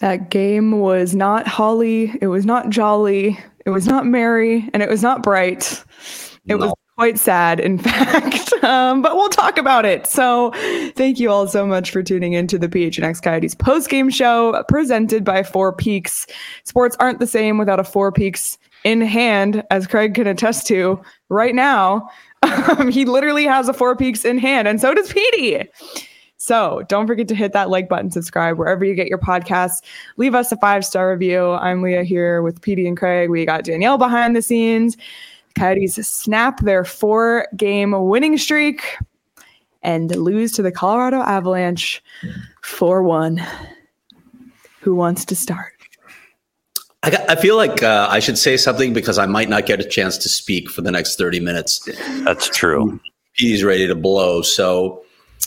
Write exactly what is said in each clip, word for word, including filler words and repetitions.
That game was not holly. It was not jolly. It was not merry. And it was not bright. It no. was quite sad, in fact. Um, but we'll talk about it. So thank you all so much for tuning into the P H N X Coyotes post-game show presented by Four Peaks. Sports aren't the same without a Four Peaks in hand, as Craig can attest to right now. Um, he literally has a Four Peaks in hand, and so does Petey. So don't forget to hit that like button, subscribe wherever you get your podcasts. Leave us a five-star review. I'm Leah here with Petey and Craig. We got Danielle behind the scenes. The Coyotes snap their four-game winning streak and lose to the Colorado Avalanche four one. Who wants to start? I, got, I feel like uh, I should say something because I might not get a chance to speak for the next thirty minutes. That's true. Petey's ready to blow, so...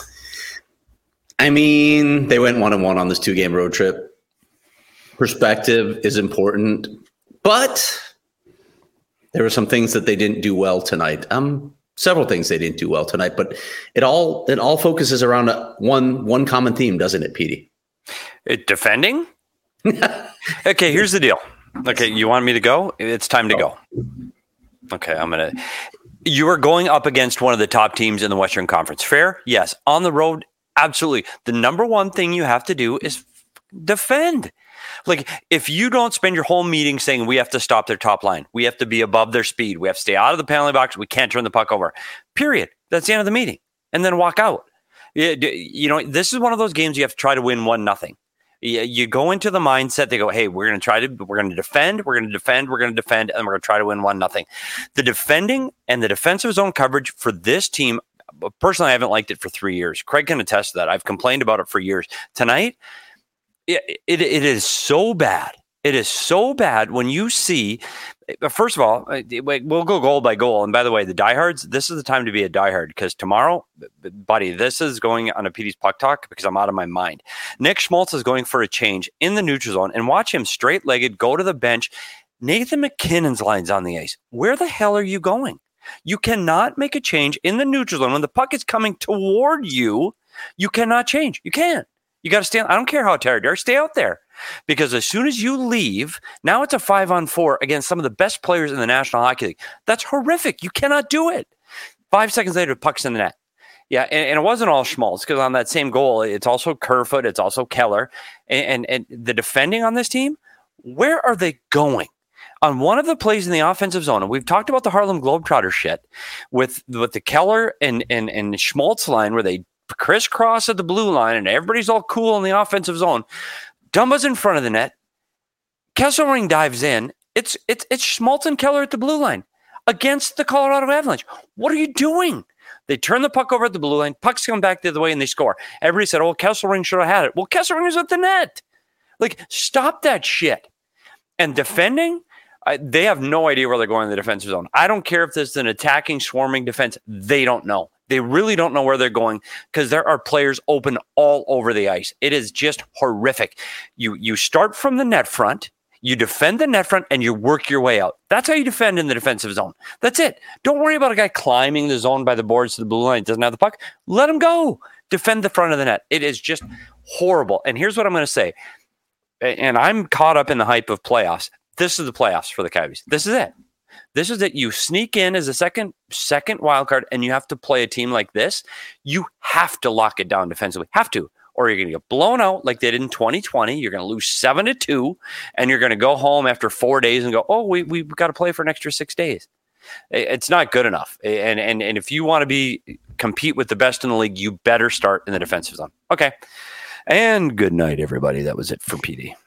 I mean, they went one and one on this two-game road trip. Perspective is important, but there were some things that they didn't do well tonight. Um, several things they didn't do well tonight, but it all it all focuses around a, one one common theme, doesn't it, Petey? It defending? Okay, here's the deal. Okay, you want me to go? It's time to go. Okay, I'm gonna. You are going up against one of the top teams in the Western Conference. Fair? Yes. On the road. Absolutely. The number one thing you have to do is defend. Like, if you don't spend your whole meeting saying we have to stop their top line, we have to be above their speed, we have to stay out of the penalty box, we can't turn the puck over, period. That's the end of the meeting. And then walk out. You know, this is one of those games you have to try to win one nothing. You go into the mindset, they go, hey, we're going to try to, we're going to defend, we're going to defend, we're going to defend, and we're going to try to win one nothing. The defending and the defensive zone coverage for this team, personally, I haven't liked it for three years. Craig can attest to that. I've complained about it for years. Tonight, it, it, it is so bad. It is so bad when you see, first of all, we'll go goal by goal. And by the way, the diehards, this is the time to be a diehard because tomorrow, buddy, this is going on a P D's Puck Talk because I'm out of my mind. Nick Schmaltz is going for a change in the neutral zone and watch him straight-legged go to the bench. Nathan McKinnon's line's on the ice. Where the hell are you going? You cannot make a change in the neutral zone. When the puck is coming toward you, you cannot change. You can't. You got to stand. I don't care how tired you are. Stay out there. Because as soon as you leave, now it's a five on four against some of the best players in the National Hockey League. That's horrific. You cannot do it. Five seconds later, the puck's in the net. Yeah, and, and it wasn't all Schmaltz because on that same goal, it's also Kerfoot, it's also Keller. And, and, and the defending on this team, where are they going? On one of the plays in the offensive zone, and we've talked about the Harlem Globetrotter shit with, with the Keller and, and, and Schmaltz line where they crisscross at the blue line and everybody's all cool in the offensive zone. Dumba's in front of the net. Kesselring dives in. It's it's it's Schmaltz and Keller at the blue line against the Colorado Avalanche. What are you doing? They turn the puck over at the blue line. Pucks come back the other way and they score. Everybody said, oh, Kesselring should have had it. Well, Kesselring is at the net. Like, stop that shit. And defending, I, they have no idea where they're going in the defensive zone. I don't care if this is an attacking, swarming defense. They don't know. They really don't know where they're going because there are players open all over the ice. It is just horrific. You you start from the net front, you defend the net front, and you work your way out. That's how you defend in the defensive zone. That's it. Don't worry about a guy climbing the zone by the boards to the blue line. Doesn't have the puck. Let him go. Defend the front of the net. It is just horrible. And here's what I'm going to say. And I'm caught up in the hype of playoffs. This is the playoffs for the Coyotes. This is it. This is it. You sneak in as a second second wild card, and you have to play a team like this. You have to lock it down defensively. Have to. Or you're going to get blown out like they did in twenty twenty. You're going to lose seven to two, and you're going to go home after four days and go, oh, we, we've got to play for an extra six days. It's not good enough. And, and, and if you want to be compete with the best in the league, you better start in the defensive zone. Okay. And good night, everybody. That was it for P D.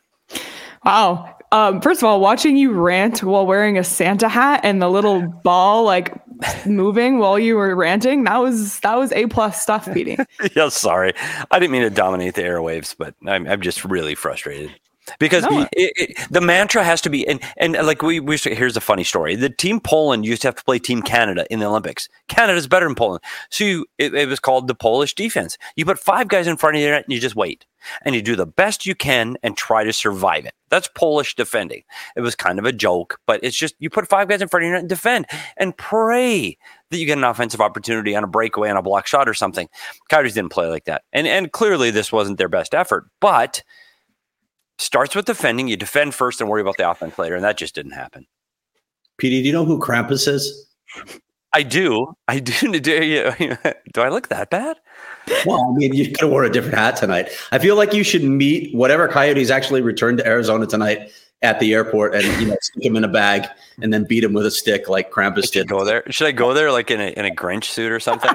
Wow. Um, first of all, watching you rant while wearing a Santa hat and the little ball like moving while you were ranting, that was that was A plus stuff, Petey. Yeah, sorry. I didn't mean to dominate the airwaves, but I'm, I'm just really frustrated. Because no. it, it, the mantra has to be, and, and like we, we, here's a funny story. The team Poland used to have to play Team Canada in the Olympics. Canada's better than Poland. So you, it, it was called the Polish defense. You put five guys in front of you and you just wait. And you do the best you can and try to survive it. That's Polish defending. It was kind of a joke, but it's just you put five guys in front of you and defend and pray that you get an offensive opportunity on a breakaway on a block shot or something. Coyotes didn't play like that. And, and clearly this wasn't their best effort, but Starts with defending. You defend first and worry about the offense later, and that just didn't happen. P D, do you know who Krampus is? I do. I do. Do, you, do I look that bad? Well, I mean, you could have worn a different hat tonight. I feel like you should meet whatever Coyotes actually returned to Arizona tonight at the airport and, you know, stick him in a bag and then beat him with a stick like Krampus did. Go there. Should I go there like in a in a Grinch suit or something?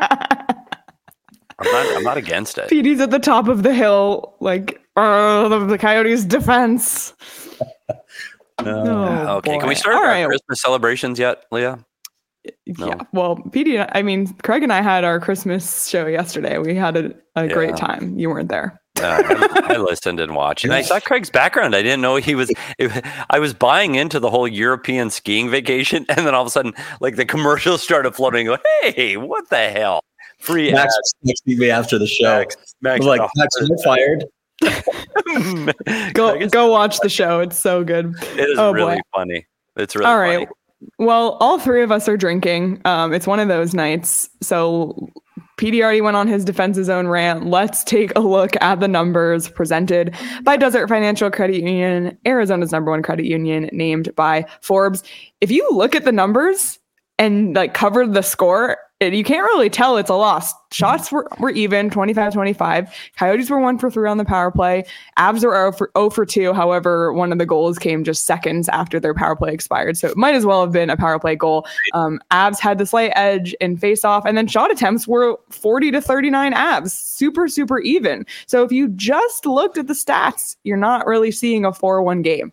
I'm not. I'm not against it. P D's at the top of the hill, like uh, the, the Coyotes' defense. Uh, oh, okay, boy. can we start All our right. Christmas celebrations yet, Leah? Yeah. No. Well, P D, I mean, Craig and I had our Christmas show yesterday. We had a, a Yeah. great time. You weren't there. Uh, I, I listened and watched, and I saw Craig's background. I didn't know he was. It, I was buying into the whole European skiing vacation, and then all of a sudden, like the commercials started flooding. Like, hey, what the hell? Free Max ads. texted me after the show. Max, Max, I'm like, oh, Max, you're fired. Go Craig is- go watch the show. It's so good. It is Oh, really boy. funny. It's really All funny. right. Well, all three of us are drinking. Um, it's one of those nights. So P D already went on his defense's own rant. Let's take a look at the numbers presented by Desert Financial Credit Union, Arizona's number one credit union, named by Forbes. If you look at the numbers and like cover the score, it, you can't really tell it's a loss. Shots were, were even, twenty-five twenty-five. Coyotes were one for three on the power play. Avs were zero for, zero for two. However, one of the goals came just seconds after their power play expired. So it might as well have been a power play goal. Um, Avs had the slight edge in face-off, and then shot attempts were forty to thirty-nine Avs. Super, super even. So if you just looked at the stats, you're not really seeing a four one game.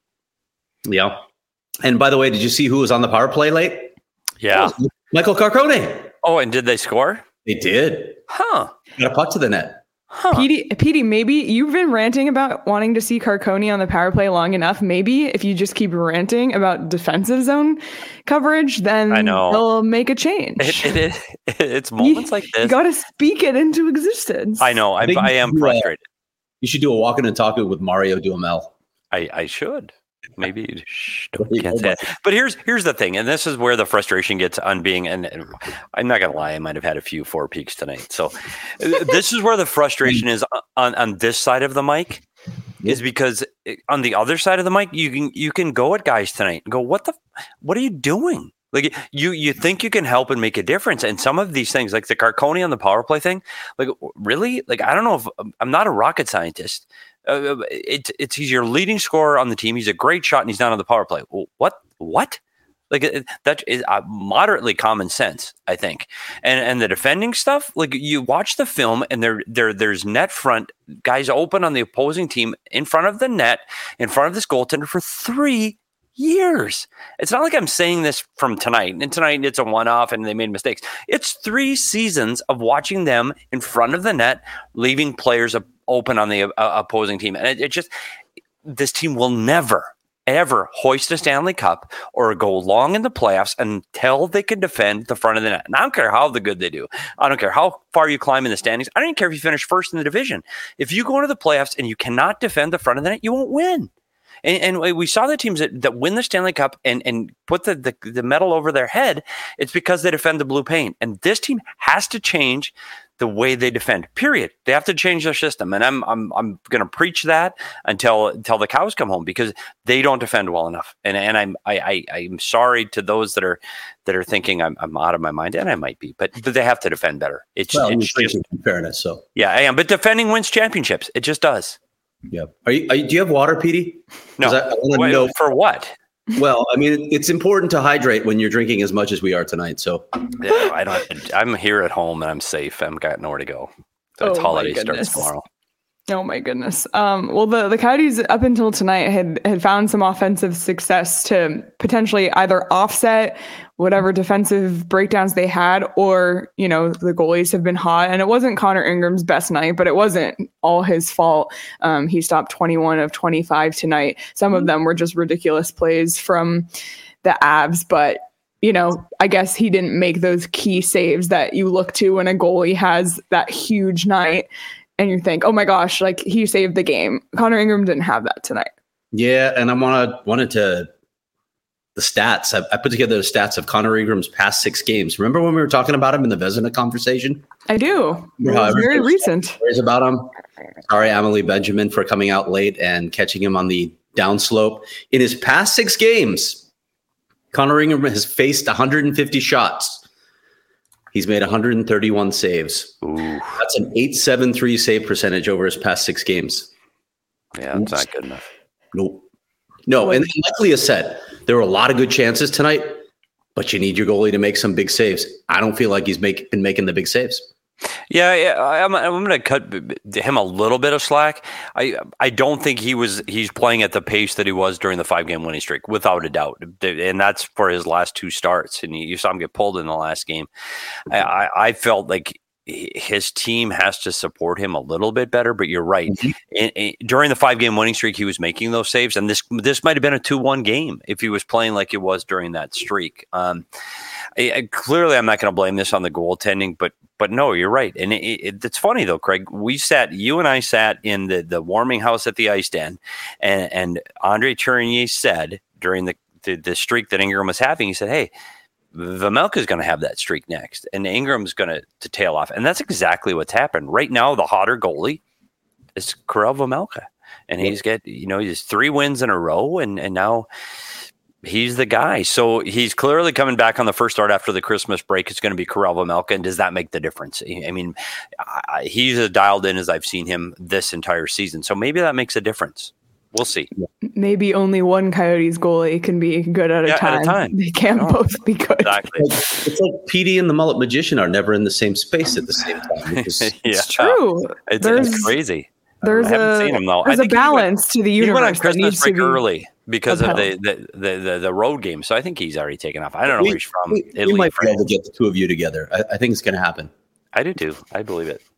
Yeah. And by the way, did you see who was on the power play late? Yeah. Oh, Michael Carcone. Oh, and did they score? They did. Huh. Got a puck to the net. Huh. P D, P D, maybe you've been ranting about wanting to see Carcone on the power play long enough. Maybe if you just keep ranting about defensive zone coverage, then I know. they'll make a change. It, it is. It's moments like You this. got to speak it into existence. I know. I, I think I am you, uh, frustrated. You should do a walk in and talk with Mario Duhamel. I, I should. Maybe shh, don't, Wait, can't hold say on. it. But here's here's the thing, and this is where the frustration gets on being. And, and I'm not gonna lie, I might have had a few four peaks tonight. So uh, this is where the frustration is on on this side of the mic, is because on the other side of the mic, you can you can go at guys tonight and go, what the what are you doing? Like you you think you can help and make a difference, and some of these things, like the Carcone on the power play thing, like really, like I don't know if I'm not a rocket scientist. Uh, it, it's he's your leading scorer on the team. He's a great shot, and he's not on the power play. Well, what? What? Like it, that is uh, moderately common sense, I think. And and the defending stuff, like you watch the film, and there there there's net front guys open on the opposing team in front of the net, in front of this goaltender for three years. It's not like I'm saying this from tonight, and tonight it's a one-off, and they made mistakes. It's three seasons of watching them in front of the net, leaving players up open on the uh, opposing team. And it, it just, this team will never, ever hoist a Stanley Cup or go long in the playoffs until they can defend the front of the net. And I don't care how the good they do. I don't care how far you climb in the standings. I don't even care if you finish first in the division. If you go into the playoffs and you cannot defend the front of the net, you won't win. And, and we saw the teams that, that win the Stanley Cup and, and put the, the, the medal over their head. It's because they defend the blue paint. And this team has to change the way they defend, period. They have to change their system. And I'm I'm I'm going to preach that until until the cows come home, because they don't defend well enough. And and I'm I, I I'm sorry to those that are that are thinking I'm I'm out of my mind, and I might be, but but they have to defend better. It's, Well, it's you're just, drinking, in fairness, so yeah, I am. But defending wins championships. It just does. yeah. Are you, are you? Do you have water, Petey? No, 'Cause I, I want Wait, to know. for what? Well, I mean, it's important to hydrate when you're drinking as much as we are tonight. So Yeah, I don't. I'm here at home and I'm safe. I've got nowhere to go. So it's Oh, my holiday starts goodness. tomorrow. Oh my goodness. Um, well, the, the Coyotes up until tonight had, had found some offensive success to potentially either offset whatever defensive breakdowns they had, or, you know, the goalies have been hot. And it wasn't Connor Ingram's best night, but it wasn't all his fault. Um, he stopped twenty-one of twenty-five tonight. Some of them were just ridiculous plays from the Avs, but you know, I guess he didn't make those key saves that you look to when a goalie has that huge night. And you think, oh my gosh, like he saved the game. Connor Ingram didn't have that tonight. yeah, and I want to wanted to the stats. I, I put together the stats of Connor Ingram's past six games. Remember when we were talking about him in the Vezina conversation? I do. It was very recent. Stories about him. Sorry, Emily Benjamin, for coming out late and catching him on the downslope. In his past six games, Connor Ingram has faced one hundred fifty shots. He's made one hundred thirty-one saves. Ooh. That's an eight seventy-three save percentage over his past six games. Yeah, that's not good enough. Nope. No, and like Leah said, there were a lot of good chances tonight, but you need your goalie to make some big saves. I don't feel like he's make, been making the big saves. Yeah, yeah, I'm, I'm going to cut him a little bit of slack. I I don't think he was he's playing at the pace that he was during the five game winning streak, without a doubt, and that's for his last two starts. And you saw him get pulled in the last game. I, I, I felt like his team has to support him a little bit better. But you're right. Mm-hmm. in, in, during the five game winning streak, he was making those saves, and this this might have been a two one game if he was playing like it was during that streak. Um, I, I, clearly, I'm not going to blame this on the goaltending, but. But no, you're right. And it, it, it's funny, though, Craig. We sat, you and I sat in the, the warming house at the Ice Den, and, and Andre Tourigny said during the, the, the streak that Ingram was having, he said, hey, Vejmelka is going to have that streak next, and Ingram's going to to tail off. And that's exactly what's happened. Right now, the hotter goalie is Karel Vejmelka. And he's got, you know, he's three wins in a row, and, and now he's the guy. So he's clearly coming back on the first start after the Christmas break. It's going to be Karel Vejmelka. And does that make the difference? I mean, I, he's as dialed in as I've seen him this entire season. So maybe that makes a difference. We'll see. Maybe only one Coyotes goalie can be good at a, yeah, time. At a time. They can't no. both be good. Exactly. It's like P D and the Mullet Magician are never in the same space at the same time. It's, yeah. it's true. It's, it's crazy. There's I haven't a, seen him, though. There's I a balance went, to the universe. He went on Christmas break be early because upheld. of the the, the, the the road game. So I think he's already taken off. I don't know we, where he's from. We, Italy, we might France. be able to get the two of you together. I, I think it's going to happen. I do too. I believe it.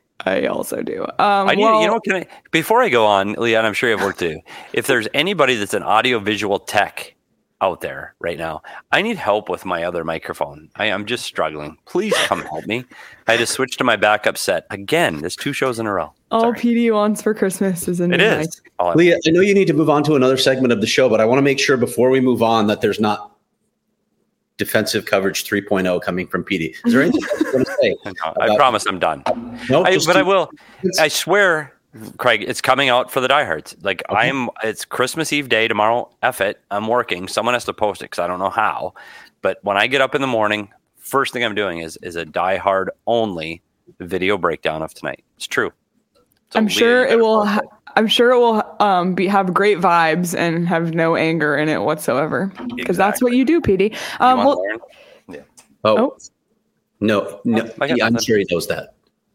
I also do. Um, I need, well, you know, can I, before I go on, Leon, I'm sure you have work to do. If there's anybody that's an audio visual tech out there right now, I need help with my other microphone. I am just struggling. Please come help me. I had to switch to my backup set again. There's two shows in a row. All Sorry. P D wants for Christmas is a new It is. mic. Leah, I know you need to move on to another segment of the show, but I want to make sure before we move on that there's not defensive coverage three point oh coming from P D. Is there anything else you want to say? No, I promise I'm done. No, I, but to, I will. I swear, Craig, it's coming out for the diehards. Like okay. I'm, it's Christmas Eve day tomorrow. F it, I'm working. Someone has to post it because I don't know how. But when I get up in the morning, first thing I'm doing is is a diehard only video breakdown of tonight. It's true. So I'm Leah, sure it will. Ha- I'm sure it will um, be have great vibes and have no anger in it whatsoever. Because exactly. that's what you do, P D. Um, well, yeah. Oh, oh. no, no. Yeah, I'm sure he knows that.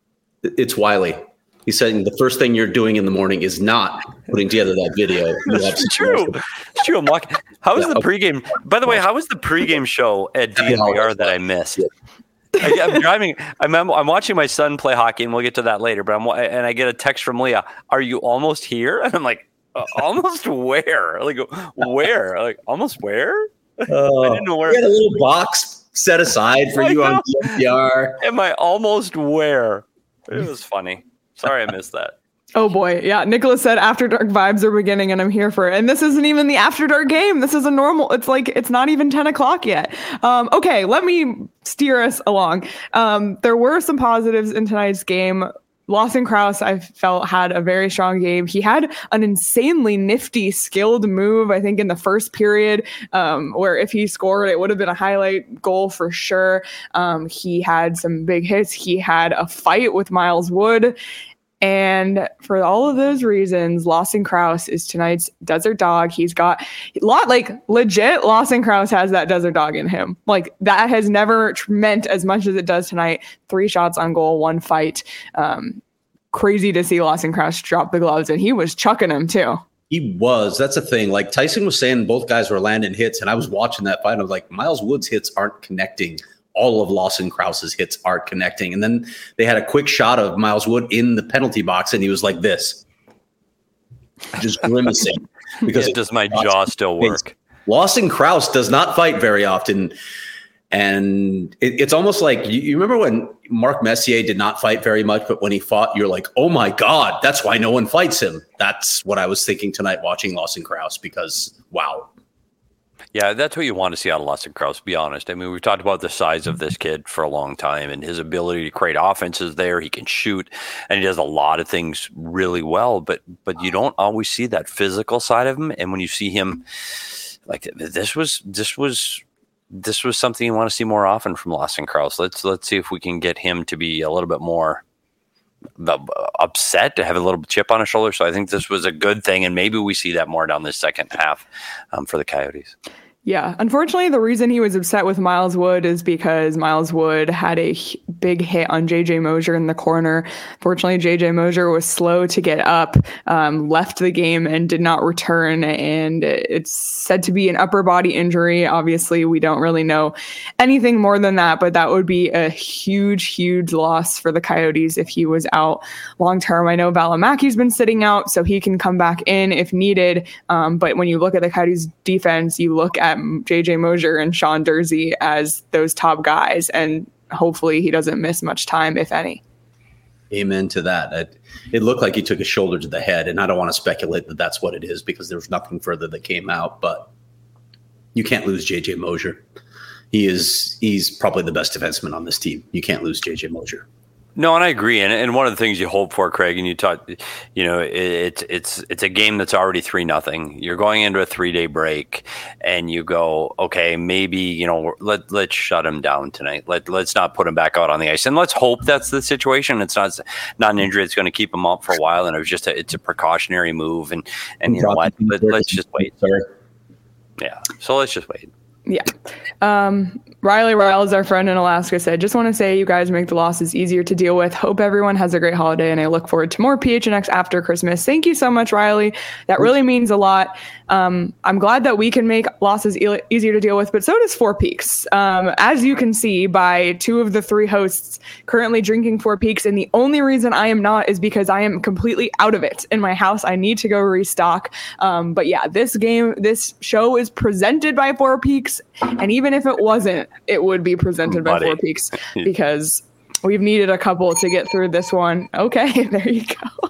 It's Wiley. He's saying the first thing you're doing in the morning is not putting together that video. It's true. It's true. I'm walking. How was yeah, the pregame? By the way, how was the pregame show at D N V R that I missed? Yeah. I, I'm driving. I'm, I'm watching my son play hockey, and we'll get to that later. But I'm and I get a text from Leah. Are you almost here? And I'm like, uh, almost where? Like where? Like almost where? Uh, I didn't know where. We had a little box set aside for you on D N V R. Am I almost where? It was funny. Sorry, I missed that. Oh boy. Yeah. Nicholas said After Dark vibes are beginning and I'm here for it. And this isn't even the After Dark game. This is a normal, it's like, it's not even ten o'clock yet. Um, okay. Let me steer us along. Um, there were some positives in tonight's game. Lawson Crouse, I felt, had a very strong game. He had an insanely nifty, skilled move, I think, in the first period, um, where if he scored, it would have been a highlight goal for sure. Um, he had some big hits. He had a fight with Miles Wood. And for all of those reasons, Lawson Crouse is tonight's desert dog. He's got a lot, like legit, Lawson Crouse has that desert dog in him. Like that has never meant as much as it does tonight. Three shots on goal, one fight. Um, crazy to see Lawson Crouse drop the gloves, and he was chucking them too. He was. That's the thing. Like Tyson was saying, both guys were landing hits, and I was watching that fight, and I was like, Miles Wood's hits aren't connecting. All of Lawson Crouse's hits are connecting. And then they had a quick shot of Miles Wood in the penalty box, and he was like this, just grimacing. Because yeah, does my jaw still work? Lawson Crouse does not fight very often. And it, it's almost like, you, you remember when Mark Messier did not fight very much, but when he fought, you're like, oh my God, that's why no one fights him. That's what I was thinking tonight watching Lawson Crouse, because wow. Yeah, that's what you want to see out of Lawson Crouse, to be honest. I mean, we've talked about the size of this kid for a long time and his ability to create offenses there. He can shoot and he does a lot of things really well, but but you don't always see that physical side of him. And when you see him, like this was this was this was something you want to see more often from Lawson Crouse. Let's let's see if we can get him to be a little bit more upset, to have a little chip on his shoulder. So I think this was a good thing, and maybe we see that more down the second half um, for the Coyotes. Yeah, unfortunately, the reason he was upset with Miles Wood is because Miles Wood had a big hit on J J Mosier in the corner. Fortunately, J J Mosier was slow to get up, um, left the game, and did not return. And it's said to be an upper body injury. Obviously, we don't really know anything more than that, but that would be a huge, huge loss for the Coyotes if he was out long term. I know Valimaki's been sitting out, so he can come back in if needed. Um, but when you look at the Coyotes defense, you look at J J Mosier and Sean Durzi as those top guys, and hopefully he doesn't miss much time, if any. Amen to that. It, it looked like he took a shoulder to the head, and I don't want to speculate that that's what it is because there was nothing further that came out, but you can't lose J J Mosier. He is he's probably the best defenseman on this team. You can't lose J J Mosier. No, and I agree. And and one of the things you hope for, Craig, and you talk, you know, it's it, it's it's a game that's already three nothing. You're going into a three day break, and you go, okay, maybe you know, let let's shut him down tonight. Let let's not put him back out on the ice, and let's hope that's the situation. It's not not an injury that's going to keep him up for a while, and it was just a, it's a precautionary move. And and you know what, let, let's just wait. Yeah, so let's just wait. Yeah. Um, Riley Riles, our friend in Alaska, said, just want to say you guys make the losses easier to deal with. Hope everyone has a great holiday, and I look forward to more P H N X after Christmas. Thank you so much, Riley. That really means a lot. Um, I'm glad that we can make losses e- easier to deal with, but so does Four Peaks. Um, as you can see by two of the three hosts currently drinking Four Peaks, and the only reason I am not is because I am completely out of it in my house. I need to go restock. Um, but yeah, this game, this show is presented by Four Peaks, and even if it wasn't, it would be presented by Four Peaks because we've needed a couple to get through this one. Okay, there you go.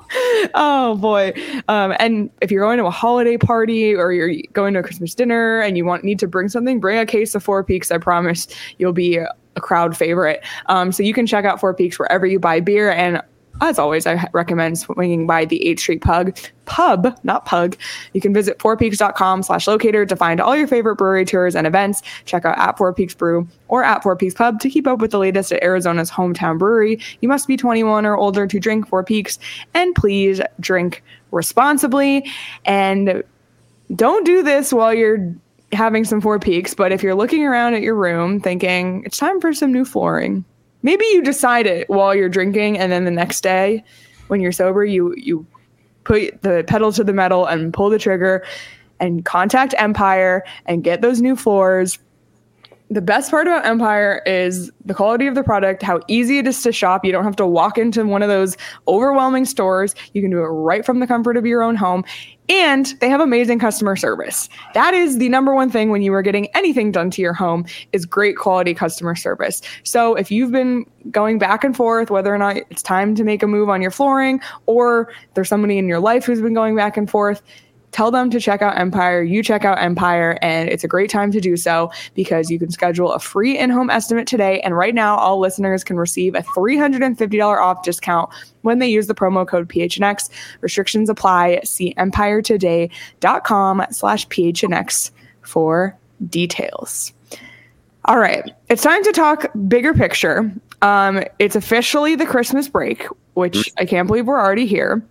Oh boy. Um, and if you're going to a holiday party or you're going to a Christmas dinner and you want need to bring something, bring a case of Four Peaks. I promise you'll be a, a crowd favorite. Um, so you can check out Four Peaks wherever you buy beer. And as always, I recommend swinging by the eighth Street Pug, pub, not pug. You can visit fourpeaks.com slash locator to find all your favorite brewery tours and events. Check out at Four Peaks Brew or at Four Peaks Pub to keep up with the latest at Arizona's hometown brewery. You must be twenty-one or older to drink Four Peaks, and please drink responsibly. And don't do this while you're having some Four Peaks, but if you're looking around at your room thinking, it's time for some new flooring, maybe you decide it while you're drinking, and then the next day when you're sober, you you put the pedal to the metal and pull the trigger and contact Empire and get those new floors. The best part about Empire is the quality of the product, how easy it is to shop. You don't have to walk into one of those overwhelming stores. You can do it right from the comfort of your own home. And they have amazing customer service. That is the number one thing when you are getting anything done to your home is great quality customer service. So if you've been going back and forth, whether or not it's time to make a move on your flooring, or there's somebody in your life who's been going back and forth, tell them to check out Empire. You check out Empire, and it's a great time to do so because you can schedule a free in-home estimate today. And right now, all listeners can receive a three hundred fifty dollars off discount when they use the promo code P H N X. Restrictions apply. See empiretoday.com slash PHNX for details. All right. It's time to talk bigger picture. Um, it's officially the Christmas break, which I can't believe we're already here.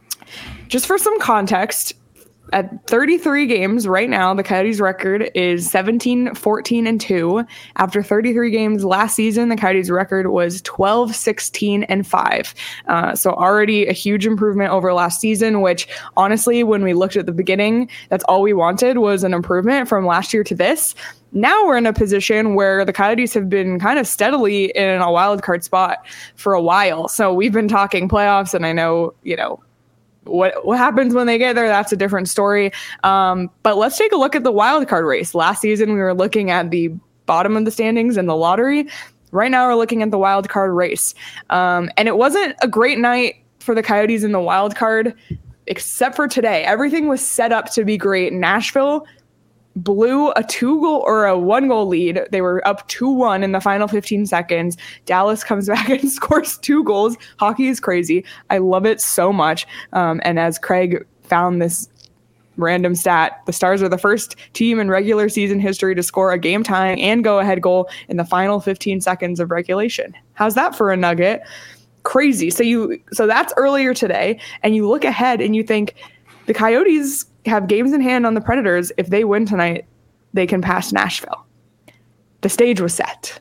Just for some context, at thirty-three games right now, the Coyotes record is seventeen, fourteen, and two. After thirty-three games last season, the Coyotes record was twelve, sixteen, and five. Uh, so already a huge improvement over last season, which honestly, when we looked at the beginning, that's all we wanted was an improvement from last year to this. Now we're in a position where the Coyotes have been kind of steadily in a wild card spot for a while. So we've been talking playoffs, and I know, you know, What what happens when they get there, that's a different story. Um, but let's take a look at the wild card race. Last season, we were looking at the bottom of the standings in the lottery. Right now, we're looking at the wild card race. Um, and it wasn't a great night for the Coyotes in the wild card, except for today. Everything was set up to be great. Nashville blew a two goal or a one goal lead. They were up two one in the final fifteen seconds. Dallas comes back and scores two goals. Hockey is crazy. I love it so much. Um, and as Craig found this random stat, the Stars are the first team in regular season history to score a game tying and go ahead goal in the final fifteen seconds of regulation. How's that for a nugget? Crazy. So you, so that's earlier today, and you look ahead and you think the Coyotes have games in hand on the Predators. If they win tonight, they can pass Nashville. The stage was set.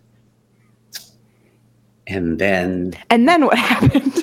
And then... And then what happened?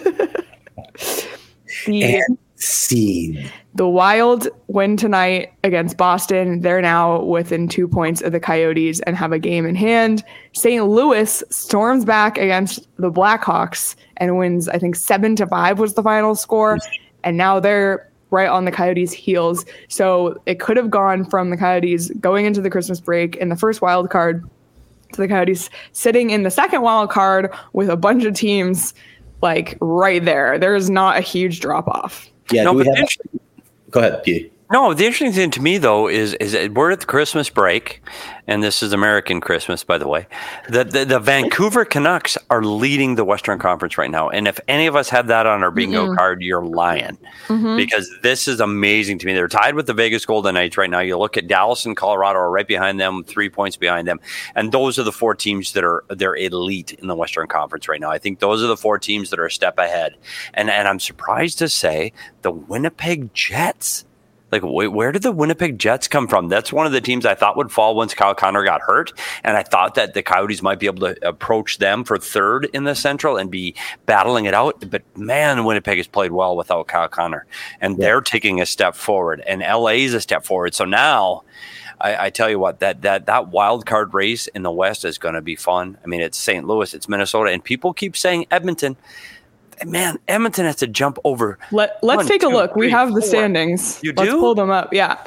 the, and scene. The Wild win tonight against Boston. They're now within two points of the Coyotes and have a game in hand. Saint Louis storms back against the Blackhawks and wins, I think, seven to five was the final score. And now they're right on the Coyotes' heels. So it could have gone from the Coyotes going into the Christmas break in the first wild card to the Coyotes sitting in the second wild card with a bunch of teams like right there. There is not a huge drop off. Yeah, no, do we but have Go ahead, P. No, the interesting thing to me, though, is is that we're at the Christmas break, and this is American Christmas, by the way. The, the the Vancouver Canucks are leading the Western Conference right now. And if any of us had that on our bingo mm-hmm. card, you're lying. Mm-hmm. Because this is amazing to me. They're tied with the Vegas Golden Knights right now. You look at Dallas and Colorado are right behind them, three points behind them. And those are the four teams that are they're elite in the Western Conference right now. I think those are the four teams that are a step ahead. And and I'm surprised to say the Winnipeg Jets. Like, wait, where did the Winnipeg Jets come from? That's one of the teams I thought would fall once Kyle Connor got hurt. And I thought that the Coyotes might be able to approach them for third in the Central and be battling it out. But, man, Winnipeg has played well without Kyle Connor. And yeah. they're taking a step forward. And L A is a step forward. So now, I, I tell you what, that that that wild card race in the West is going to be fun. I mean, it's Saint Louis, it's Minnesota. And people keep saying Edmonton. Man, Edmonton has to jump over. Let, let's one, take a two, look. Three, we have the four. standings. You do? Let's pull them up. Yeah.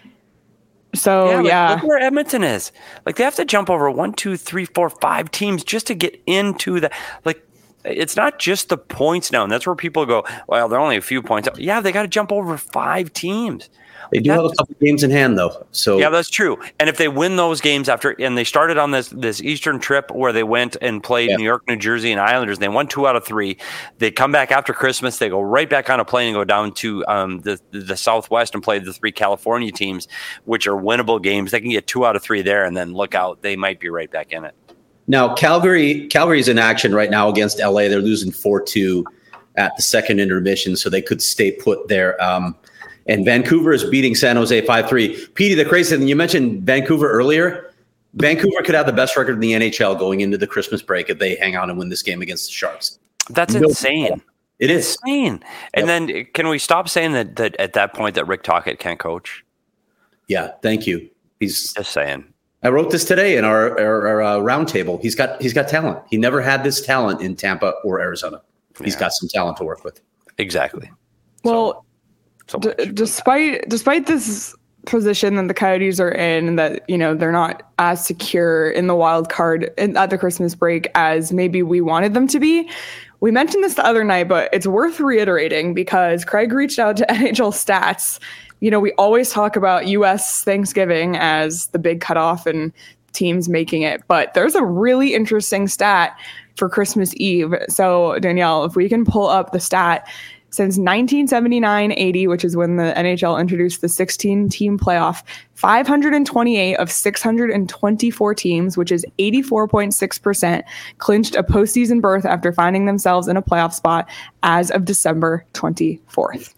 So, yeah. Like, yeah. Look where Edmonton is. Like, they have to jump over one, two, three, four, five teams just to get into the, like, it's not just the points now. And that's where people go, well, they're only a few points up. Yeah, they got to jump over five teams. They do have a couple games in hand, though. So yeah, that's true. And if they win those games after, and they started on this this Eastern trip where they went and played yeah. New York, New Jersey, and Islanders, and they won two out of three. They come back after Christmas. They go right back on a plane and go down to um, the the Southwest and play the three California teams, which are winnable games. They can get two out of three there, and then look out, they might be right back in it. Now, Calgary, Calgary's in action right now against L A. They're losing four two at the second intermission, so they could stay put there. Um, And Vancouver is beating San Jose five three. Petey, the crazy thing, you mentioned Vancouver earlier. Vancouver could have the best record in the N H L going into the Christmas break if they hang on and win this game against the Sharks. That's no insane. Problem. It is. Insane. And yep. then can we stop saying that, that at that point that Rick Tocchet can't coach? Yeah, thank you. He's just saying. I wrote this today in our, our, our uh, roundtable. He's got he's got talent. He never had this talent in Tampa or Arizona. He's yeah. got some talent to work with. Exactly. Well, so, So D- despite despite this position that the Coyotes are in, that you know they're not as secure in the wild card in, at the Christmas break as maybe we wanted them to be. We mentioned this the other night, but it's worth reiterating because Craig reached out to N H L Stats. You know, we always talk about U S Thanksgiving as the big cutoff and teams making it, but there's a really interesting stat for Christmas Eve. So Danielle, if we can pull up the stat. Since nineteen seventy-nine eighty, which is when the N H L introduced the sixteen-team playoff, five hundred twenty-eight of six hundred twenty-four teams, which is eighty-four point six percent, clinched a postseason berth after finding themselves in a playoff spot as of December twenty-fourth.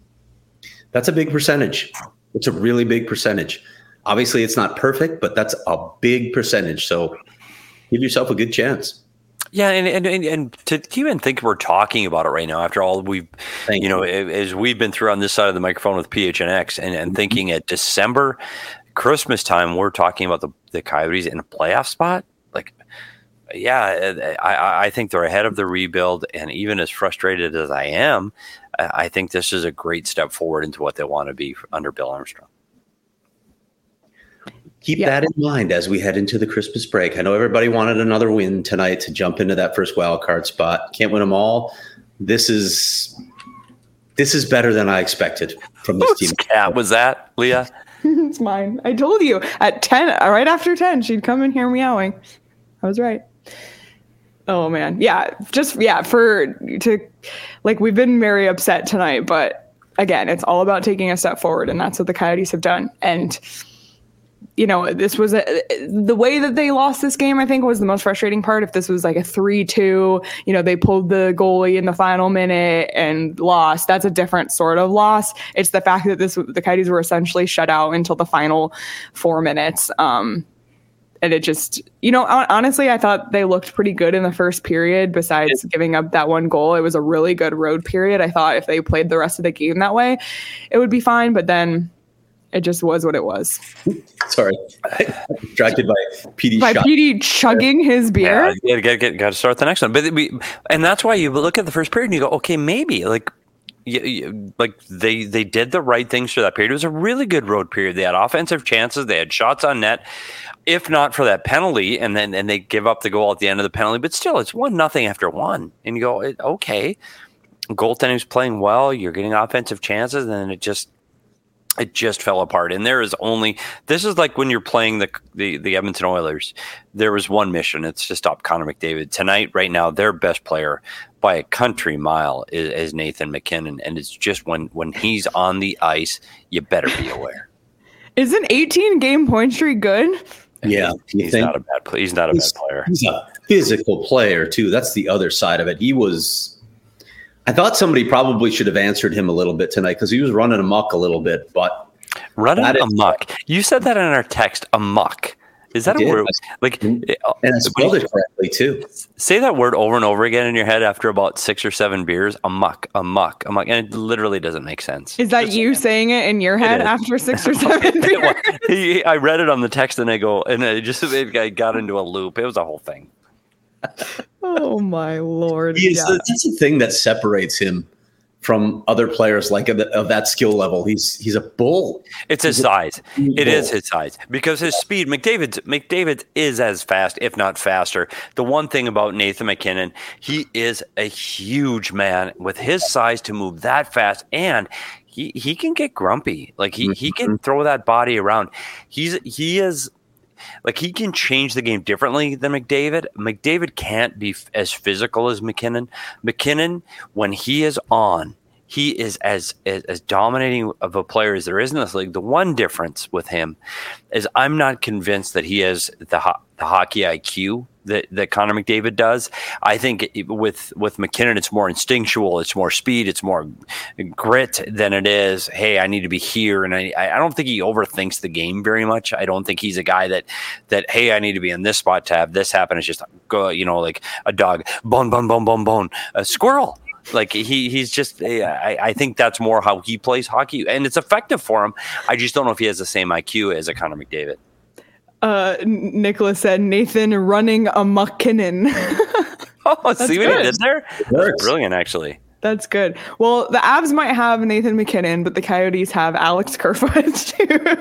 That's a big percentage. It's a really big percentage. Obviously, it's not perfect, but that's a big percentage. So give yourself a good chance. Yeah, and, and and to even think we're talking about it right now, after all we've, Thank you know, you. as we've been through on this side of the microphone with P H N X, and, and thinking at December, Christmas time, we're talking about the, the Coyotes in a playoff spot. Like, yeah, I, I think they're ahead of the rebuild, and even as frustrated as I am, I think this is a great step forward into what they want to be under Bill Armstrong. Keep yeah. that in mind as we head into the Christmas break. I know everybody wanted another win tonight to jump into that first wild card spot. Can't win them all. This is this is better than I expected from this Whose team. Cat was that, Leah? It's mine. I told you at ten, right after ten, she'd come in here meowing. I was right. Oh man. Yeah. Just, yeah, for to like, we've been very upset tonight, but again, it's all about taking a step forward, and that's what the Coyotes have done. And, you know, this was a, the way that they lost this game, I think, was the most frustrating part. If this was like a three two, you know, they pulled the goalie in the final minute and lost, that's a different sort of loss. It's the fact that this, the Coyotes were essentially shut out until the final four minutes. Um, And it just, you know, honestly, I thought they looked pretty good in the first period besides giving up that one goal. It was a really good road period. I thought if they played the rest of the game that way, it would be fine. But then it just was what it was. Sorry. Distracted by P D By shot. P D chugging his beer. Yeah, you got to got to start the next one. But we, and that's why you look at the first period and you go, okay, maybe like, you, you, like they they did the right things for that period. It was a really good road period. They had offensive chances. They had shots on net. If not for that penalty, and then and they give up the goal at the end of the penalty, but still, it's one nothing after one, and you go, okay, goaltending's playing well. You're getting offensive chances, and then it just it just fell apart. And there is only this is like when you're playing the the, the Edmonton Oilers. There was one mission: it's to stop Connor McDavid. Tonight, right now, their best player by a country mile is, is Nathan MacKinnon, and it's just when when he's on the ice, you better be aware. Is an eighteen game point streak good? Yeah, he's, he's not a bad player. He's not a he's, bad player. He's a physical player too. That's the other side of it. He was. I thought somebody probably should have answered him a little bit tonight because he was running amok a little bit. But running amok. You said that in our text. Amok. Is that I a did. word? Like, and I spelled it correctly too. Say that word over and over again in your head after about six or seven beers. Amok, amok, amok, and it literally doesn't make sense. Is that Just, you saying it in your head after six or seven beers? I read it on the text and I go, and it just it, I got into a loop. It was a whole thing. Oh my Lord! He is, yeah. That's the thing that separates him from other players like of, the, of that skill level. He's he's a bull. It's his he's size. It bull. is his size because his speed. McDavid's McDavid is as fast, if not faster. The one thing about Nathan MacKinnon, he is a huge man with his size to move that fast, and he he can get grumpy. Like he he can throw that body around. He's he is. Like he can change the game differently than McDavid. McDavid can't be f- as physical as MacKinnon. MacKinnon, when he is on, he is as, as as dominating of a player as there is in this league. The one difference with him is I'm not convinced that he has the ho- the hockey I Q that, that Connor McDavid does. I think it, with with MacKinnon, it's more instinctual, it's more speed, it's more grit than it is, hey, I need to be here. And I I don't think he overthinks the game very much. I don't think he's a guy that that hey, I need to be in this spot to have this happen. It's just go, you know, like a dog, bone, bone, bone, bone, bone, a squirrel. Like he he's just I, I think that's more how he plays hockey, and it's effective for him. I just don't know if he has the same I Q as a Connor McDavid. Uh, Nicholas said Nathan running a MacKinnon. Oh, That's see what good. he did there? That's brilliant, actually. That's good. Well, the Avs might have Nathan MacKinnon, but the Coyotes have Alex Kerfoot,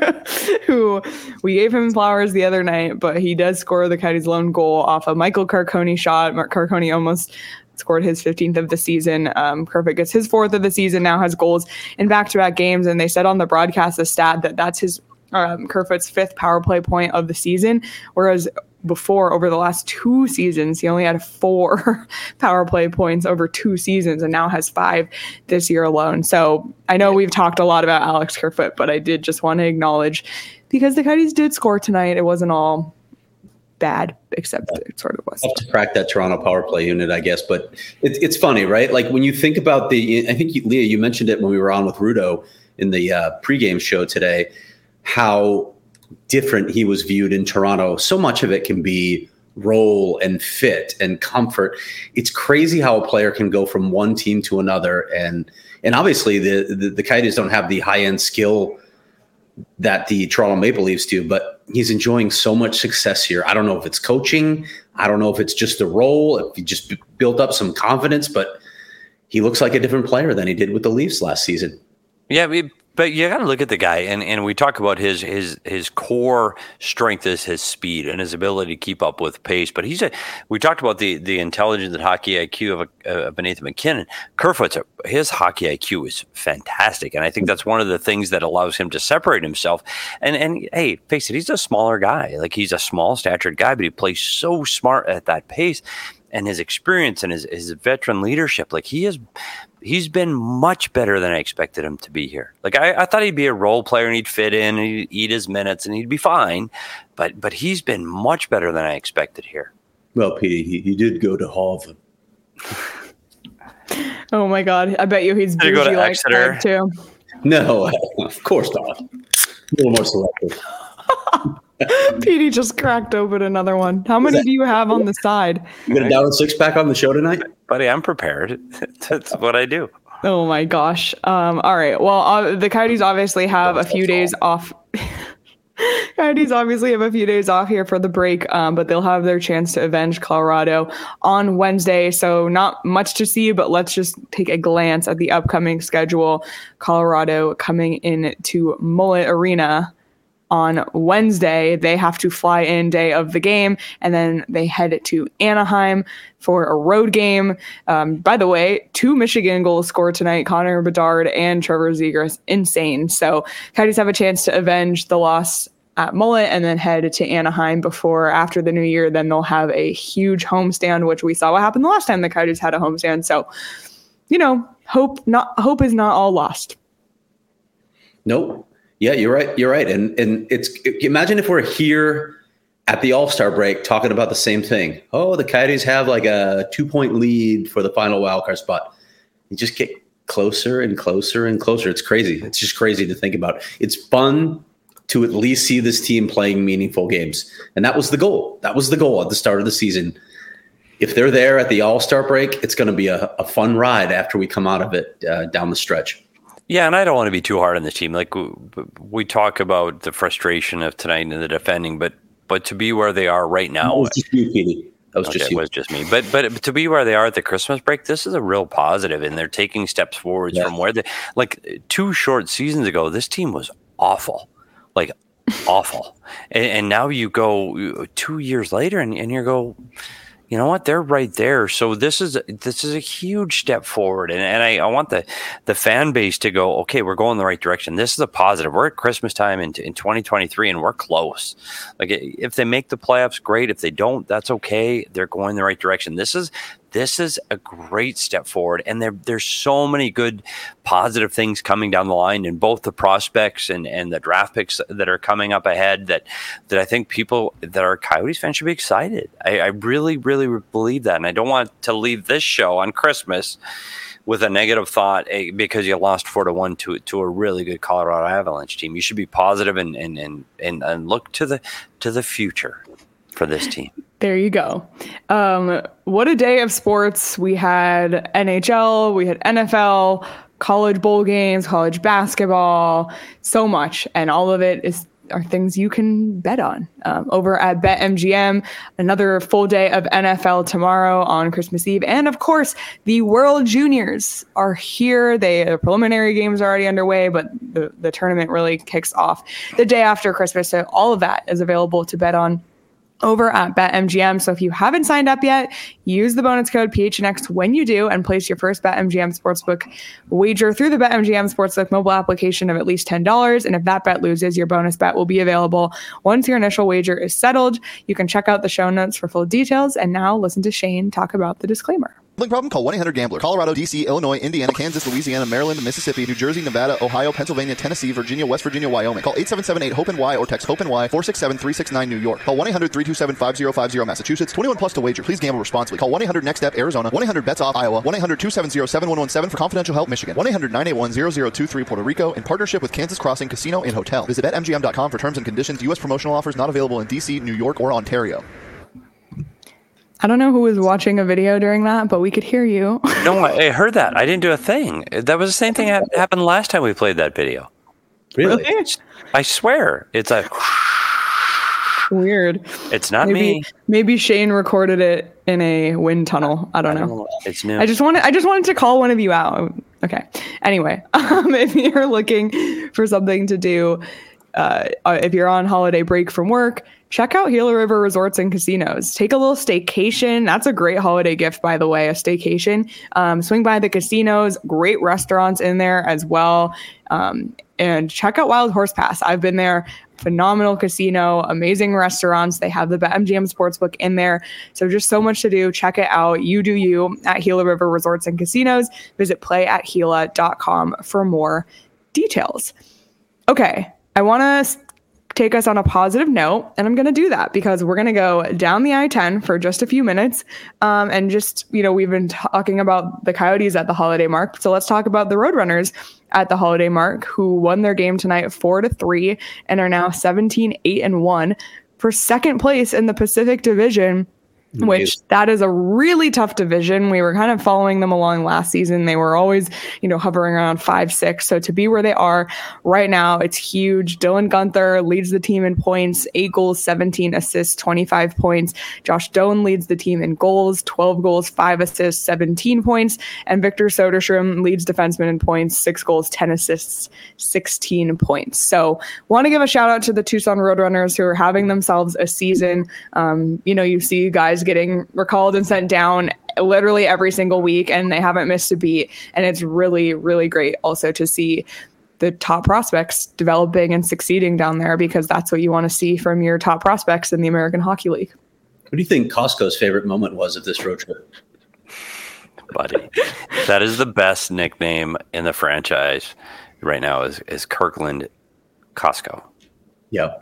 who we gave him flowers the other night, but he does score the Coyotes' lone goal off a Michael Carcone shot. Mark Carcone almost scored his fifteenth of the season. Um, Kerfoot gets his fourth of the season, now has goals in back-to-back games, and they said on the broadcast the stat that that's his um, Kerfoot's fifth power play point of the season, whereas before, over the last two seasons, he only had four power play points over two seasons and now has five this year alone. So I know we've talked a lot about Alex Kerfoot, but I did just want to acknowledge, because the Coyotes did score tonight, it wasn't all bad, except it sort of was. Tough to crack that Toronto power play unit, I guess. But it, it's funny, right? Like when you think about the, I think, you, Leah, you mentioned it when we were on with Rudo in the uh, pregame show today, how different he was viewed in Toronto. So much of it can be role and fit and comfort. It's crazy how a player can go from one team to another. And and obviously the, the, the Coyotes don't have the high-end skill that the Toronto Maple Leafs do, but he's enjoying so much success here. I don't know if it's coaching. I don't know if it's just the role, if he just b- built up some confidence, but he looks like a different player than he did with the Leafs last season. Yeah, we but you got to look at the guy, and, and we talk about his his his core strength is his speed and his ability to keep up with pace. But he's a we talked about the the intelligence and hockey I Q of, a, of Nathan MacKinnon. Kerfoot's a, his hockey I Q is fantastic, and I think that's one of the things that allows him to separate himself. And and hey, face it, he's a smaller guy. Like he's a small statured guy, but he plays so smart at that pace. And his experience and his, his veteran leadership, like he is, he's been much better than I expected him to be here. Like I, I thought he'd be a role player and he'd fit in and he'd eat his minutes and he'd be fine. But but he's been much better than I expected here. Well, Petey, he, he did go to Harvard. Oh my God! I bet you he's did he go to like Exeter too. No, of course not. A little more selective. Petey just cracked open another one. How many do you have on the side? You got a down six pack on the show tonight? Buddy, I'm prepared. That's what I do. Oh my gosh. Um, all right. Well, uh, the Coyotes obviously have a few days off. Coyotes obviously have a few days off here for the break, um, but they'll have their chance to avenge Colorado on Wednesday. So not much to see, but let's just take a glance at the upcoming schedule. Colorado coming in to Mullet Arena on Wednesday. They have to fly in day of the game, and then they head to Anaheim for a road game. Um, by the way, two Michigan goals scored tonight, Connor Bedard and Trevor Zegras. Insane. So Coyotes have a chance to avenge the loss at Mullet and then head to Anaheim before, after the new year, then they'll have a huge homestand, which we saw what happened the last time the Coyotes had a homestand. So, you know, hope not hope is not all lost. Nope. Yeah, you're right. You're right. And and it's imagine if we're here at the All-Star break talking about the same thing. Oh, the Coyotes have like a two-point lead for the final wildcard spot. You just get closer and closer and closer. It's crazy. It's just crazy to think about. It's fun to at least see this team playing meaningful games. And that was the goal. That was the goal at the start of the season. If they're there at the All-Star break, it's going to be a, a fun ride after we come out of it uh, down the stretch. Yeah, and I don't want to be too hard on the team. Like we, we talk about the frustration of tonight and the defending, but but to be where they are right now, that was just you, Petey. That was okay, just you. It was just me. But but to be where they are at the Christmas break, this is a real positive, and they're taking steps forwards yeah. from where they like two short seasons ago. This team was awful, like awful, and, and now you go two years later, and, and you go. You know what? They're right there. So this is this is a huge step forward, and and I, I want the the fan base to go. Okay, we're going the right direction. This is a positive. We're at Christmas time in in twenty twenty-three, and we're close. Like if they make the playoffs, great. If they don't, that's okay. They're going the right direction. This is this is a great step forward, and there there's so many good positive things coming down the line in both the prospects and and the draft picks that are coming up ahead. That that I think people that are Coyotes fans should be excited. I, I really really. believe that, and I don't want to leave this show on Christmas with a negative thought eh, because you lost four to one to to a really good Colorado Avalanche team. You should be positive and and and and, and look to the to the future for this team. There you go. Um, what a day of sports. We had N H L, we had N F L, college bowl games, college basketball, so much, and all of it is are things you can bet on um, over at BetMGM. Another full day of N F L tomorrow on Christmas Eve. And of course, the World Juniors are here. They, the preliminary games are already underway, but the, the tournament really kicks off the day after Christmas. So all of that is available to bet on over at BetMGM. So if you haven't signed up yet, use the bonus code P H N X when you do and place your first BetMGM Sportsbook wager through the BetMGM Sportsbook mobile application of at least ten dollars. And if that bet loses, your bonus bet will be available once your initial wager is settled. You can check out the show notes for full details. And now listen to Shane talk about the disclaimer. Gambling problem? Call one eight hundred gambler. Colorado, D C, Illinois, Indiana, Kansas, Louisiana, Maryland, Mississippi, New Jersey, Nevada, Ohio, Pennsylvania, Tennessee, Virginia, West Virginia, Wyoming. Call eight seven seven eight hope N Y or text HOPE-NY four six seven three six nine New York. Call one eight hundred three two seven five zero five zero Massachusetts. twenty-one plus to wager. Please gamble responsibly. Call one eight hundred next step Arizona. one eight hundred bets off Iowa. one eight hundred two seven zero seven one one seven for confidential help Michigan. one eight hundred nine eight one zero zero two three Puerto Rico in partnership with Kansas Crossing Casino and Hotel. Visit bet M G M dot com for terms and conditions. U S promotional offers not available in D C, New York, or Ontario. I don't know who was watching a video during that, but we could hear you. No, I heard that. I didn't do a thing. That was the same thing that happened last time we played that video. Really? I swear. It's a... Weird. It's not maybe, me. Maybe Shane recorded it in a wind tunnel. I don't know. I don't know. It's new. I just wanted I just wanted to call one of you out. Okay. Anyway, um, if you're looking for something to do, uh, if you're on holiday break from work, check out Gila River Resorts and Casinos. Take a little staycation. That's a great holiday gift, by the way, a staycation. Um, swing by the casinos, great restaurants in there as well. Um, and check out Wild Horse Pass. I've been there. Phenomenal casino, amazing restaurants. They have the BetMGM Sportsbook in there. So just so much to do. Check it out. You do you at Gila River Resorts and Casinos. Visit play at gila dot com for more details. Okay, I want to take us on a positive note, and I'm going to do that because we're going to go down the I ten for just a few minutes. Um, and just, you know, we've been talking about the Coyotes at the holiday mark. So let's talk about the Roadrunners at the holiday mark, who won their game tonight four to three and are now seventeen, eight and one for second place in the Pacific Division, which that is a really tough division. We were kind of following them along last season. They were always, you know, hovering around five, six. So to be where they are right now, it's huge. Dylan Guenther leads the team in points, eight goals, seventeen assists, twenty-five points. Josh Doan leads the team in goals, twelve goals, five assists, seventeen points. And Victor Soderstrom leads defensemen in points, six goals, ten assists, sixteen points. So want to give a shout out to the Tucson Roadrunners who are having themselves a season. Um, you know, you see guys getting recalled and sent down literally every single week, and they haven't missed a beat. And it's really, really great also to see the top prospects developing and succeeding down there, because that's what you want to see from your top prospects in the American Hockey League. What do you think Costco's favorite moment was of this road trip? Buddy, that is the best nickname in the franchise right now is, is Kirkland Costco. Yeah.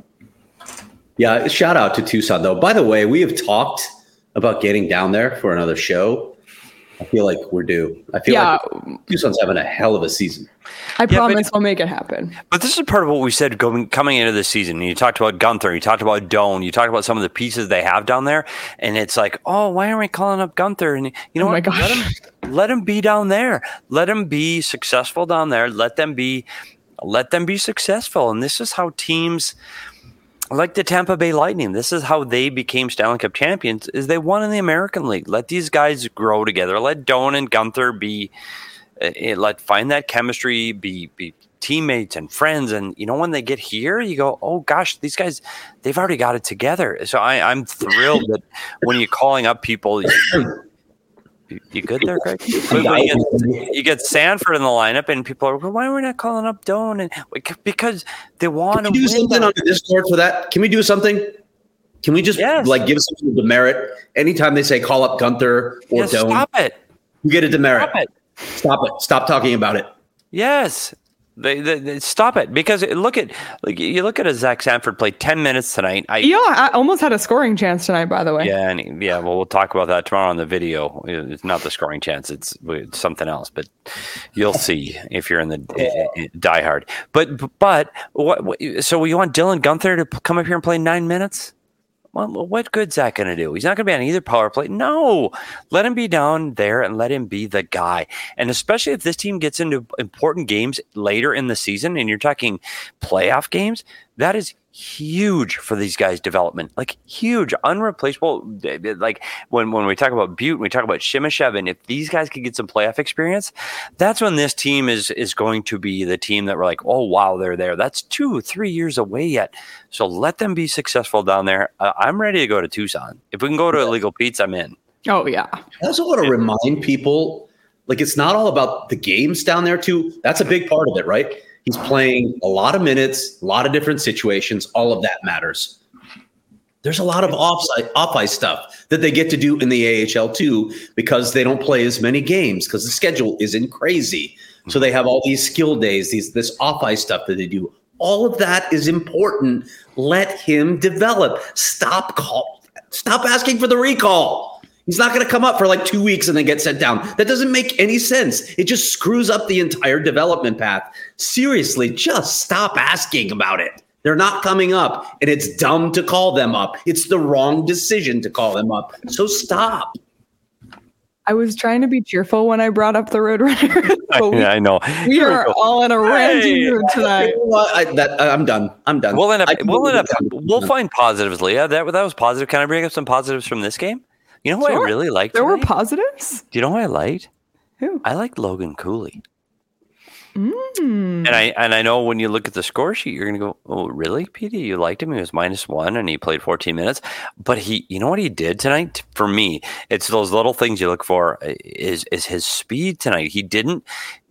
Yeah, shout out to Tucson, though. By the way, we have talked about getting down there for another show. I feel like we're due. I feel yeah. like Tucson's having a hell of a season. I yeah, promise but, we'll make it happen. But this is part of what we said going coming into the season. You talked about Guenther, you talked about Doan, you talked about some of the pieces they have down there, and it's like, oh, why aren't we calling up Guenther? And you know oh what? My gosh. Let him let him be down there. Let him be successful down there. Let them be let them be successful. And this is how teams like the Tampa Bay Lightning, this is how they became Stanley Cup champions, is they won in the American League. Let these guys grow together. Let Doan and Guenther be, uh, let find that chemistry, be be teammates and friends. And, you know, when they get here, you go, oh, gosh, these guys, they've already got it together. So I, I'm thrilled that when you're calling up people, you, you good there, Craig? When you, get, you get Sanford in the lineup, and people are, well, why are we not calling up Doan? And because they want to do win. something on the Discord for that. Can we do something? Can we just yes. like give some demerit anytime they say call up Guenther or yes, Doan? Stop it. You get a demerit. Stop it. Stop it. Stop talking about it. Yes. They, they, they stop it, because look at like you look at a Zach Sanford play ten minutes tonight. I, yeah, I almost had a scoring chance tonight, by the way. Yeah, and he, yeah. Well, we'll talk about that tomorrow on the video. It's not the scoring chance; it's, it's something else. But you'll see if you're in the uh, diehard. But but what, what? So you want Dylan Guenther to come up here and play nine minutes? Well, what good's that going to do? He's not going to be on either power play. No, let him be down there and let him be the guy. And especially if this team gets into important games later in the season, and you're talking playoff games, that is huge for these guys' development. Like huge, unreplaceable. Like when, when we talk about Butte, we talk about Shimashev, and if these guys could get some playoff experience, that's when this team is is going to be the team that we're like, oh wow, they're there. That's two, three years away yet. So let them be successful down there. Uh, I'm ready to go to Tucson. If we can go to Illegal Pete's, I'm in. Oh yeah. I also want to remind people, like, it's not all about the games down there too. That's a big part of it, right? He's playing a lot of minutes, a lot of different situations. All of that matters. There's a lot of off-ice, off-ice stuff that they get to do in the A H L too, because they don't play as many games because the schedule isn't crazy. So they have all these skill days, these this off-ice stuff that they do. All of that is important. Let him develop. Stop call. Stop asking for the recall. He's not going to come up for like two weeks and then get sent down. That doesn't make any sense. It just screws up the entire development path. Seriously, just stop asking about it. They're not coming up, and it's dumb to call them up. It's the wrong decision to call them up. So stop. I was trying to be cheerful when I brought up the Roadrunner. we, I know. We Here are we all in a ranting hey, mood tonight. I, that, I'm done. I'm done. We'll end up. We'll end up. We'll find positives, Leah. That that was positive. Can I bring up some positives from this game? You know who sure. I really liked? There tonight? were positives. Do you know who I liked? Who? I liked Logan Cooley. Mm. And I and I know when you look at the score sheet, you're going to go, "Oh, really, P D? You liked him? He was minus one, and he played fourteen minutes." But he, you know what he did tonight? For me, it's those little things you look for. Is is his speed tonight? He didn't.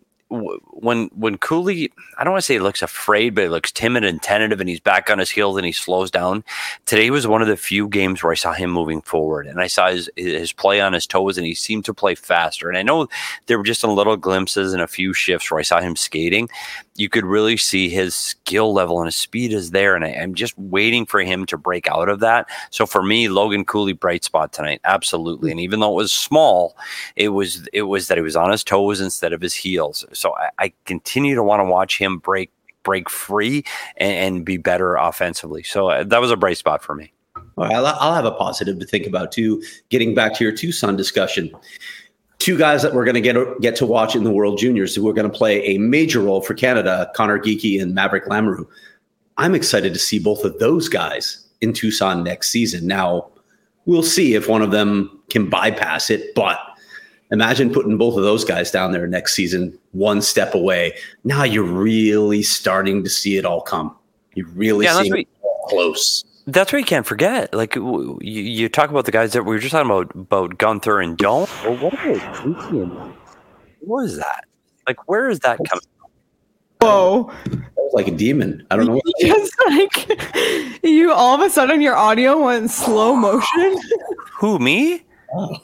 When when Cooley, I don't want to say he looks afraid, but he looks timid and tentative, and he's back on his heels and he slows down. Today was one of the few games where I saw him moving forward, and I saw his his play on his toes, and he seemed to play faster. And I know there were just some little glimpses and a few shifts where I saw him skating. You could really see his skill level and his speed is there, and I, I'm just waiting for him to break out of that. So for me, Logan Cooley, bright spot tonight, absolutely. And even though it was small, it was it was that he was on his toes instead of his heels. So I, I continue to want to watch him break break free and, and be better offensively. So uh, that was a bright spot for me. All right, I'll, I'll have a positive to think about too. Getting back to your Tucson discussion. Two guys that we're going to get get to watch in the World Juniors who are going to play a major role for Canada, Connor Geekie and Maverick Lamoureux. I'm excited to see both of those guys in Tucson next season. Now, we'll see if one of them can bypass it, but imagine putting both of those guys down there next season, one step away. Now you're really starting to see it all come. You're really yeah, seeing it all close. That's what you can't forget. Like you, you talk about the guys that we were just talking about, about Gunther and Doan. Well, what about What is that? Like, where is that coming from? Whoa. That was like a demon. I don't know. What just like you, all of a sudden your audio went slow motion. Who, me? Oh.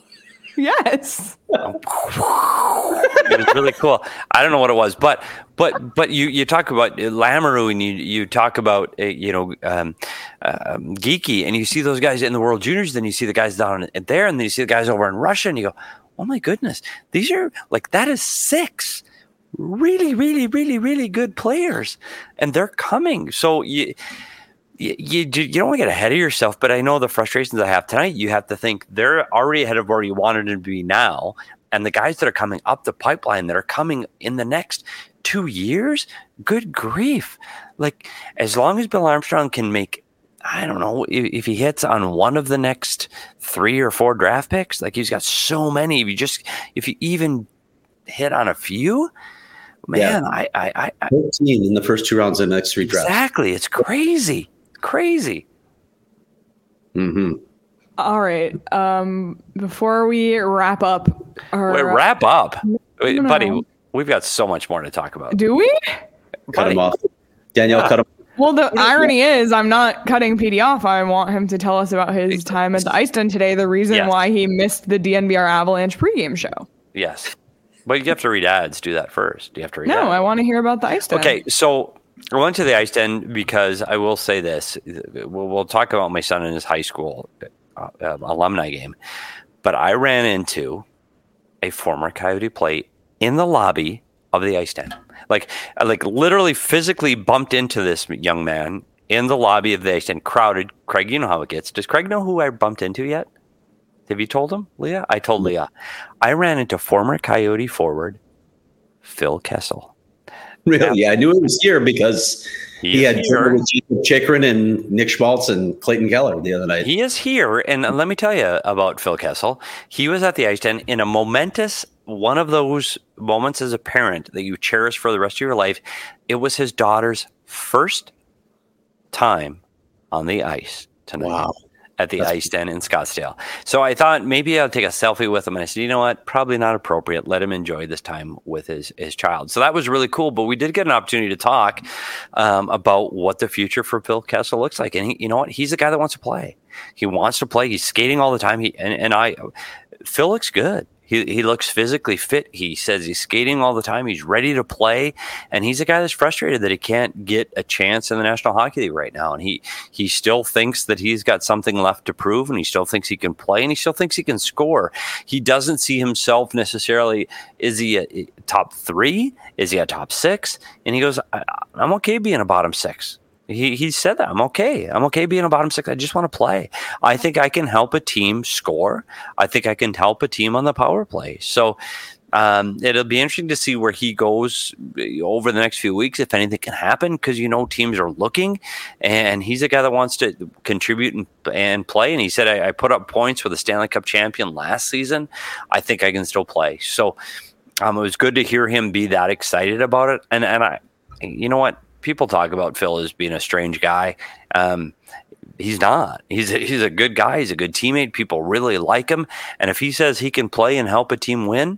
Yes. It was really cool. I don't know what it was, but but but you, you talk about Lamoureux and you you talk about uh, you know um, uh, Geekie, and you see those guys in the World Juniors, then you see the guys down there, and then you see the guys over in Russia, and you go, oh my goodness, these are like that is six really really really really good players, and they're coming. So you. You, you you don't want to get ahead of yourself, but I know the frustrations I have tonight. You have to think they're already ahead of where you wanted them to be now, and the guys that are coming up the pipeline that are coming in the next two years, good grief! Like as long as Bill Armstrong can make, I don't know if, if he hits on one of the next three or four draft picks, like he's got so many. If you just if you even hit on a few. Man, yeah. I, I, I, fourteen in the first two rounds of the next three drafts. Exactly, it's crazy. Crazy. Mm-hmm. All right. Um, before we wrap up, our, Wait, wrap up, Wait, no. buddy. We've got so much more to talk about. Do we? Cut buddy. him off, Danielle. Yeah. Cut him. Well, the irony is, I'm not cutting P D off. I want him to tell us about his time at the Ice Den today. The reason yes. why he missed the D N V R Avalanche pregame show. Yes, but you have to read ads. Do that first. Do you have to read? No, ads? I want to hear about the Ice Den. Okay, so. I went to the Ice Den because I will say this. We'll, we'll talk about my son in his high school uh, uh, alumni game. But I ran into a former Coyote plate in the lobby of the Ice Den. Like, I like literally physically bumped into this young man in the lobby of the Ice Den, crowded. Craig, you know how it gets. Does Craig know who I bumped into yet? Have you told him, Leah? I told Leah. I ran into former Coyote forward Phil Kessel. Really? Yeah, I knew he was here because he, he had dinner with Jacob Chychrun and Nick Schmaltz and Clayton Keller the other night. He is here, and let me tell you about Phil Kessel. He was at the Ice Den in a momentous, one of those moments as a parent that you cherish for the rest of your life. It was his daughter's first time on the ice tonight. Wow. At the That's Ice Den in Scottsdale. So I thought maybe I'll take a selfie with him. And I said, you know what? Probably not appropriate. Let him enjoy this time with his, his child. So that was really cool. But we did get an opportunity to talk um, about what the future for Phil Kessel looks like. And he, you know what? He's a guy that wants to play. He wants to play. He's skating all the time. He and, and I, Phil looks good. He he looks physically fit. He says he's skating all the time. He's ready to play. And he's a guy that's frustrated that he can't get a chance in the National Hockey League right now. And he he still thinks that he's got something left to prove, and he still thinks he can play, and he still thinks he can score. He doesn't see himself necessarily, is he a, a top three? Is he a top six? And he goes, I, I'm okay being a bottom six. He he said that I'm okay. I'm okay being a bottom six. I just want to play. I think I can help a team score. I think I can help a team on the power play. So um, it'll be interesting to see where he goes over the next few weeks, if anything can happen, because you know teams are looking, and he's a guy that wants to contribute and, and play. And he said, I, I put up points for the Stanley Cup champion last season. I think I can still play. So um, it was good to hear him be that excited about it. And and I, you know what? People talk about Phil as being a strange guy. Um, he's not. He's a, he's a good guy. He's a good teammate. People really like him. And if he says he can play and help a team win,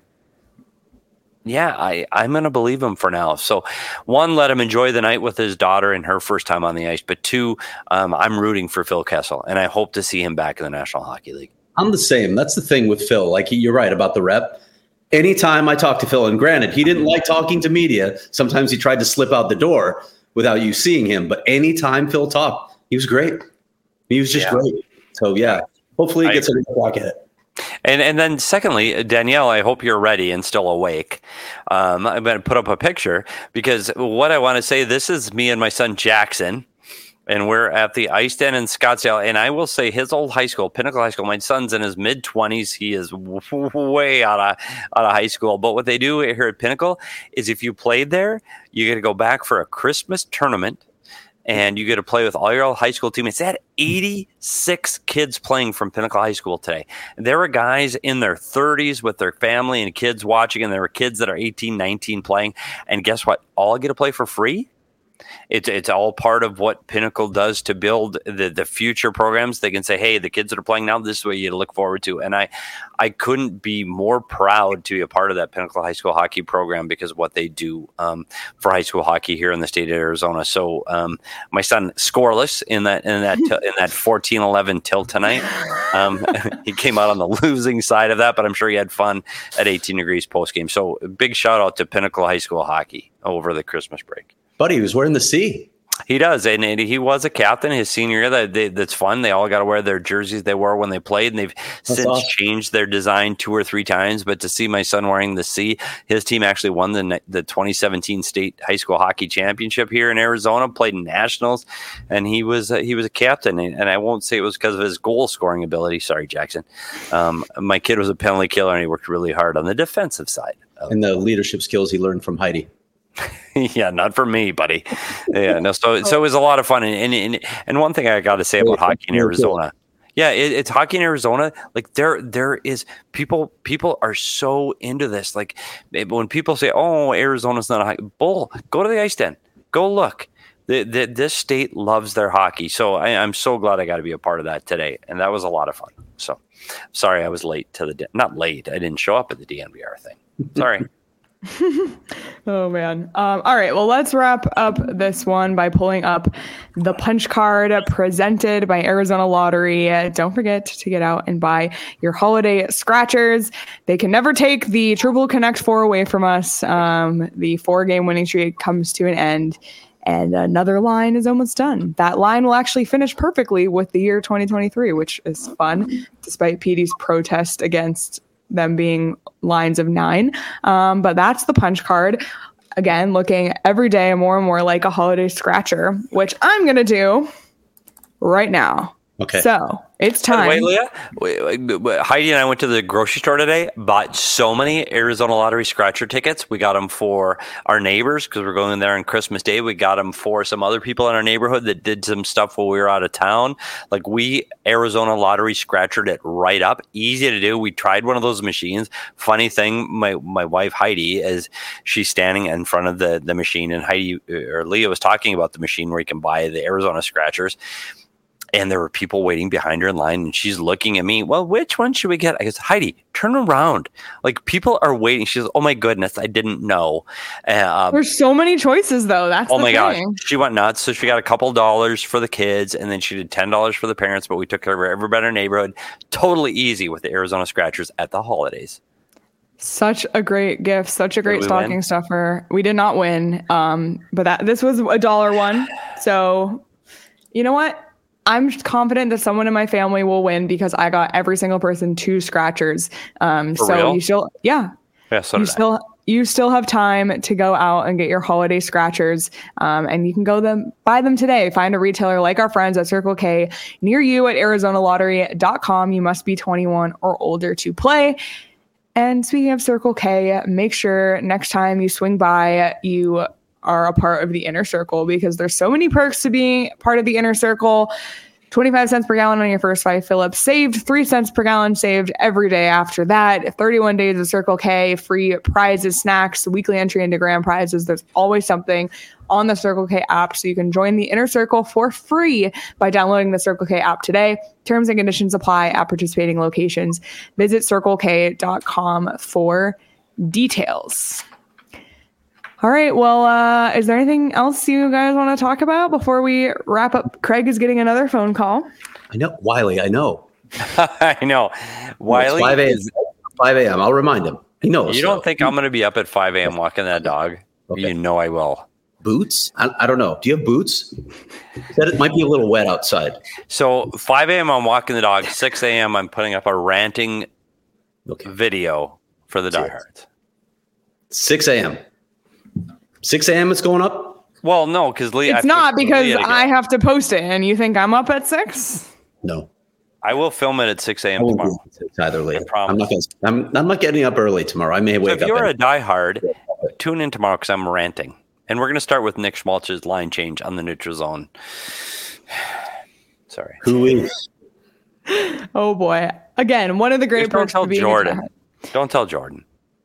yeah, I, I'm going to believe him for now. So, one, let him enjoy the night with his daughter and her first time on the ice. But two, um, I'm rooting for Phil Kessel, and I hope to see him back in the National Hockey League. I'm the same. That's the thing with Phil. Like, you're right about the rep. Anytime I talk to Phil, and granted, he didn't like talking to media. Sometimes he tried to slip out the door without you seeing him. But anytime Phil talked, he was great. He was just yeah. great. So, yeah, hopefully he gets a clock at it. And and then secondly, Danielle, I hope you're ready and still awake. Um, I'm going to put up a picture because what I want to say, this is me and my son Jackson. And we're at the Ice Den in Scottsdale. And I will say his old high school, Pinnacle High School, my son's in his mid-twenties. He is w- way out of, out of high school. But what they do here at Pinnacle is if you played there, you get to go back for a Christmas tournament. And you get to play with all your old high school teammates. They had eighty-six kids playing from Pinnacle High School today. There were guys in their thirties with their family and kids watching. And there were kids that are eighteen, nineteen playing. And guess what? All get to play for free. It's it's all part of what Pinnacle does to build the, the future programs. They can say, hey, the kids that are playing now, this is what you look forward to. And I, I couldn't be more proud to be a part of that Pinnacle High School hockey program because of what they do um, for high school hockey here in the state of Arizona. So um, my son scoreless in that in that in that fourteen eleven tilt tonight. Um, he came out on the losing side of that, but I'm sure he had fun at eighteen degrees post game. So big shout out to Pinnacle High School hockey over the Christmas break. Buddy, he was wearing the C. He does, and he was a captain his senior year. That they, that's fun. They all got to wear their jerseys they wore when they played, and they've that's since awesome. changed their design two or three times. But to see my son wearing the C, his team actually won the the twenty seventeen state high school hockey championship here in Arizona. Played in nationals, and he was uh, he was a captain. And I won't say it was because of his goal scoring ability. Sorry, Jackson. Um, my kid was a penalty killer, and he worked really hard on the defensive side. And the leadership skills he learned from Heidi. Yeah, not for me, buddy. Yeah, no. So, so it was a lot of fun, and and and one thing I got to say about hockey in Arizona, yeah, it, it's hockey in Arizona. Like there, there is people. People are so into this. Like when people say, "Oh, Arizona's not a hockey bull," go to the Ice Den. Go look. The, the, this state loves their hockey. So I, I'm so glad I got to be a part of that today, and that was a lot of fun. So sorry I was late to the not late. I didn't show up at the D N V R thing. Sorry. Oh, man. Um, all right. Well, let's wrap up this one by pulling up the punch card presented by Arizona Lottery. Uh, don't forget to get out and buy your holiday scratchers. They can never take the Triple Connect four away from us. Um, the four-game winning streak comes to an end, and another line is almost done. That line will actually finish perfectly with the year twenty twenty-three, which is fun, despite P D's protest against them being lines of nine. Um, but that's the punch card. Again, looking every day more and more like a holiday scratcher, which I'm going to do right now. Okay. So it's time. Wait, Leah. Wait, wait, wait. Heidi and I went to the grocery store today, bought so many Arizona Lottery scratcher tickets. We got them for our neighbors because we're going there on Christmas Day. We got them for some other people in our neighborhood that did some stuff while we were out of town. Like we Arizona Lottery scratchered it right up. Easy to do. We tried one of those machines. Funny thing, my my wife Heidi, as she's standing in front of the, the machine, and Heidi or Leah was talking about the machine where you can buy the Arizona scratchers. And there were people waiting behind her in line, and she's looking at me. Well, which one should we get? I guess, Heidi, turn around. Like people are waiting. She's, oh my goodness, I didn't know. Um, There's so many choices, though. That's oh the my thing. gosh, she went nuts. So she got a couple dollars for the kids, and then she did ten dollars for the parents. But we took care of everybody in our neighborhood. Totally easy with the Arizona scratchers at the holidays. Such a great gift, such a great stocking win? stuffer. We did not win, um, but that this was a dollar one. So, you know what? I'm confident that someone in my family will win because I got every single person two scratchers. Um, For so real? you still, yeah, Yeah, so you did still, you still have time to go out and get your holiday scratchers, um, and you can go them buy them today. Find a retailer like our friends at Circle K near you at arizona lottery dot com. You must be twenty-one or older to play. And speaking of Circle K, make sure next time you swing by, you are a part of the Inner Circle, because there's so many perks to being part of the Inner Circle. twenty-five cents per gallon on your first five fill-ups saved, three cents per gallon saved every day after that, thirty-one days of Circle K, free prizes, snacks, weekly entry into grand prizes. There's always something on the Circle K app, so you can join the Inner Circle for free by downloading the Circle K app today. Terms and conditions apply at participating locations. Visit circle k dot com for details. All right. Well, uh, is there anything else you guys want to talk about before we wrap up? Craig is getting another phone call. I know. Wiley, I know. I know. Wiley. five a.m. five a.m. I'll remind him. He knows. You don't so. think I'm going to be up at five a.m. walking that dog? Okay. You know I will. Boots? I, I don't know. Do you have boots? Said it might be a little wet outside. So five a.m. I'm walking the dog. six a.m. I'm putting up a ranting okay. video for the diehards. six a.m. six a.m. it's going up? Well, no, because Leah. It's not because I have to post it, and you think I'm up at six? No. I will film it at six a.m. tomorrow. It's either late. I'm not, gonna, I'm, I'm not getting up early tomorrow. I may wake so up. If you're and- a diehard, tune in tomorrow because I'm ranting. And we're going to start with Nick Schmaltz's line change on the neutral zone. Sorry. Who is? Oh, boy. Again, one of the great Just perks don't tell to being Jordan. A Don't tell Jordan.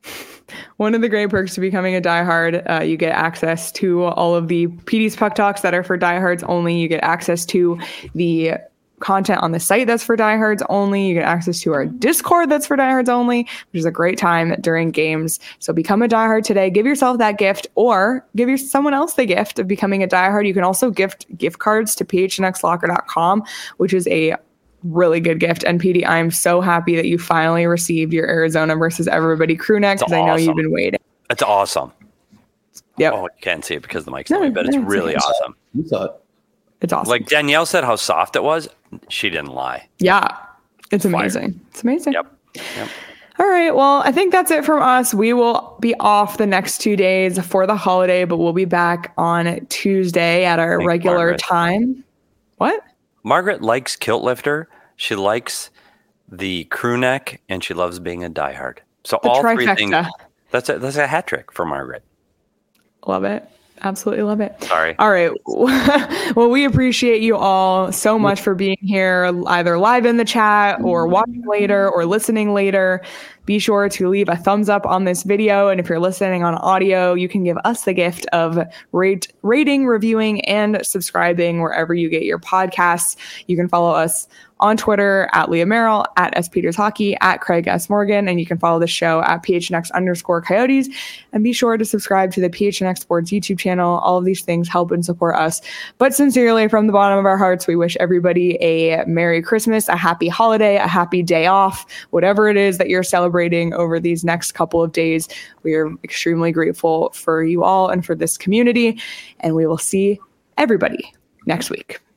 One of the great perks to becoming a diehard, uh, you get access to all of the P D's Puck Talks that are for diehards only. You get access to the content on the site that's for diehards only. You get access to our Discord that's for diehards only, which is a great time during games. So become a diehard today. Give yourself that gift, or give your someone else the gift of becoming a diehard. You can also gift gift cards to p h n x locker dot com, which is a really good gift. And P D, I'm so happy that you finally received your Arizona versus everybody crew neck, because I know you've been waiting. It's awesome. Yep. Oh, you can't see it because the mic's No, not away, but it's no, really it's awesome. You saw it. It's awesome. Like Danielle said how soft it was. She didn't lie. Yeah. It's Fire. amazing. It's amazing. Yep. Yep. All right. Well, I think that's it from us. We will be off the next two days for the holiday, but we'll be back on Tuesday at our Thanks, regular Margaret. time. What? Margaret likes Kilt Lifter. She likes the crew neck, and she loves being a diehard. So The all trifecta. three things. That's a that's a hat trick for Margaret. Love it. Absolutely love it. Sorry. All right. Well, we appreciate you all so much for being here, either live in the chat or watching later or listening later. Be sure to leave a thumbs up on this video. And if you're listening on audio, you can give us the gift of rate, rating, reviewing, and subscribing wherever you get your podcasts. You can follow us on Twitter at Leah Merrill, at S Peters Hockey, at Craig S. Morgan, and you can follow the show at P H N X underscore Coyotes. And be sure to subscribe to the P H N X Sports YouTube channel. All of these things help and support us. But sincerely, from the bottom of our hearts, we wish everybody a Merry Christmas, a happy holiday, a happy day off, whatever it is that you're celebrating over these next couple of days. We are extremely grateful for you all and for this community. And we will see everybody next week.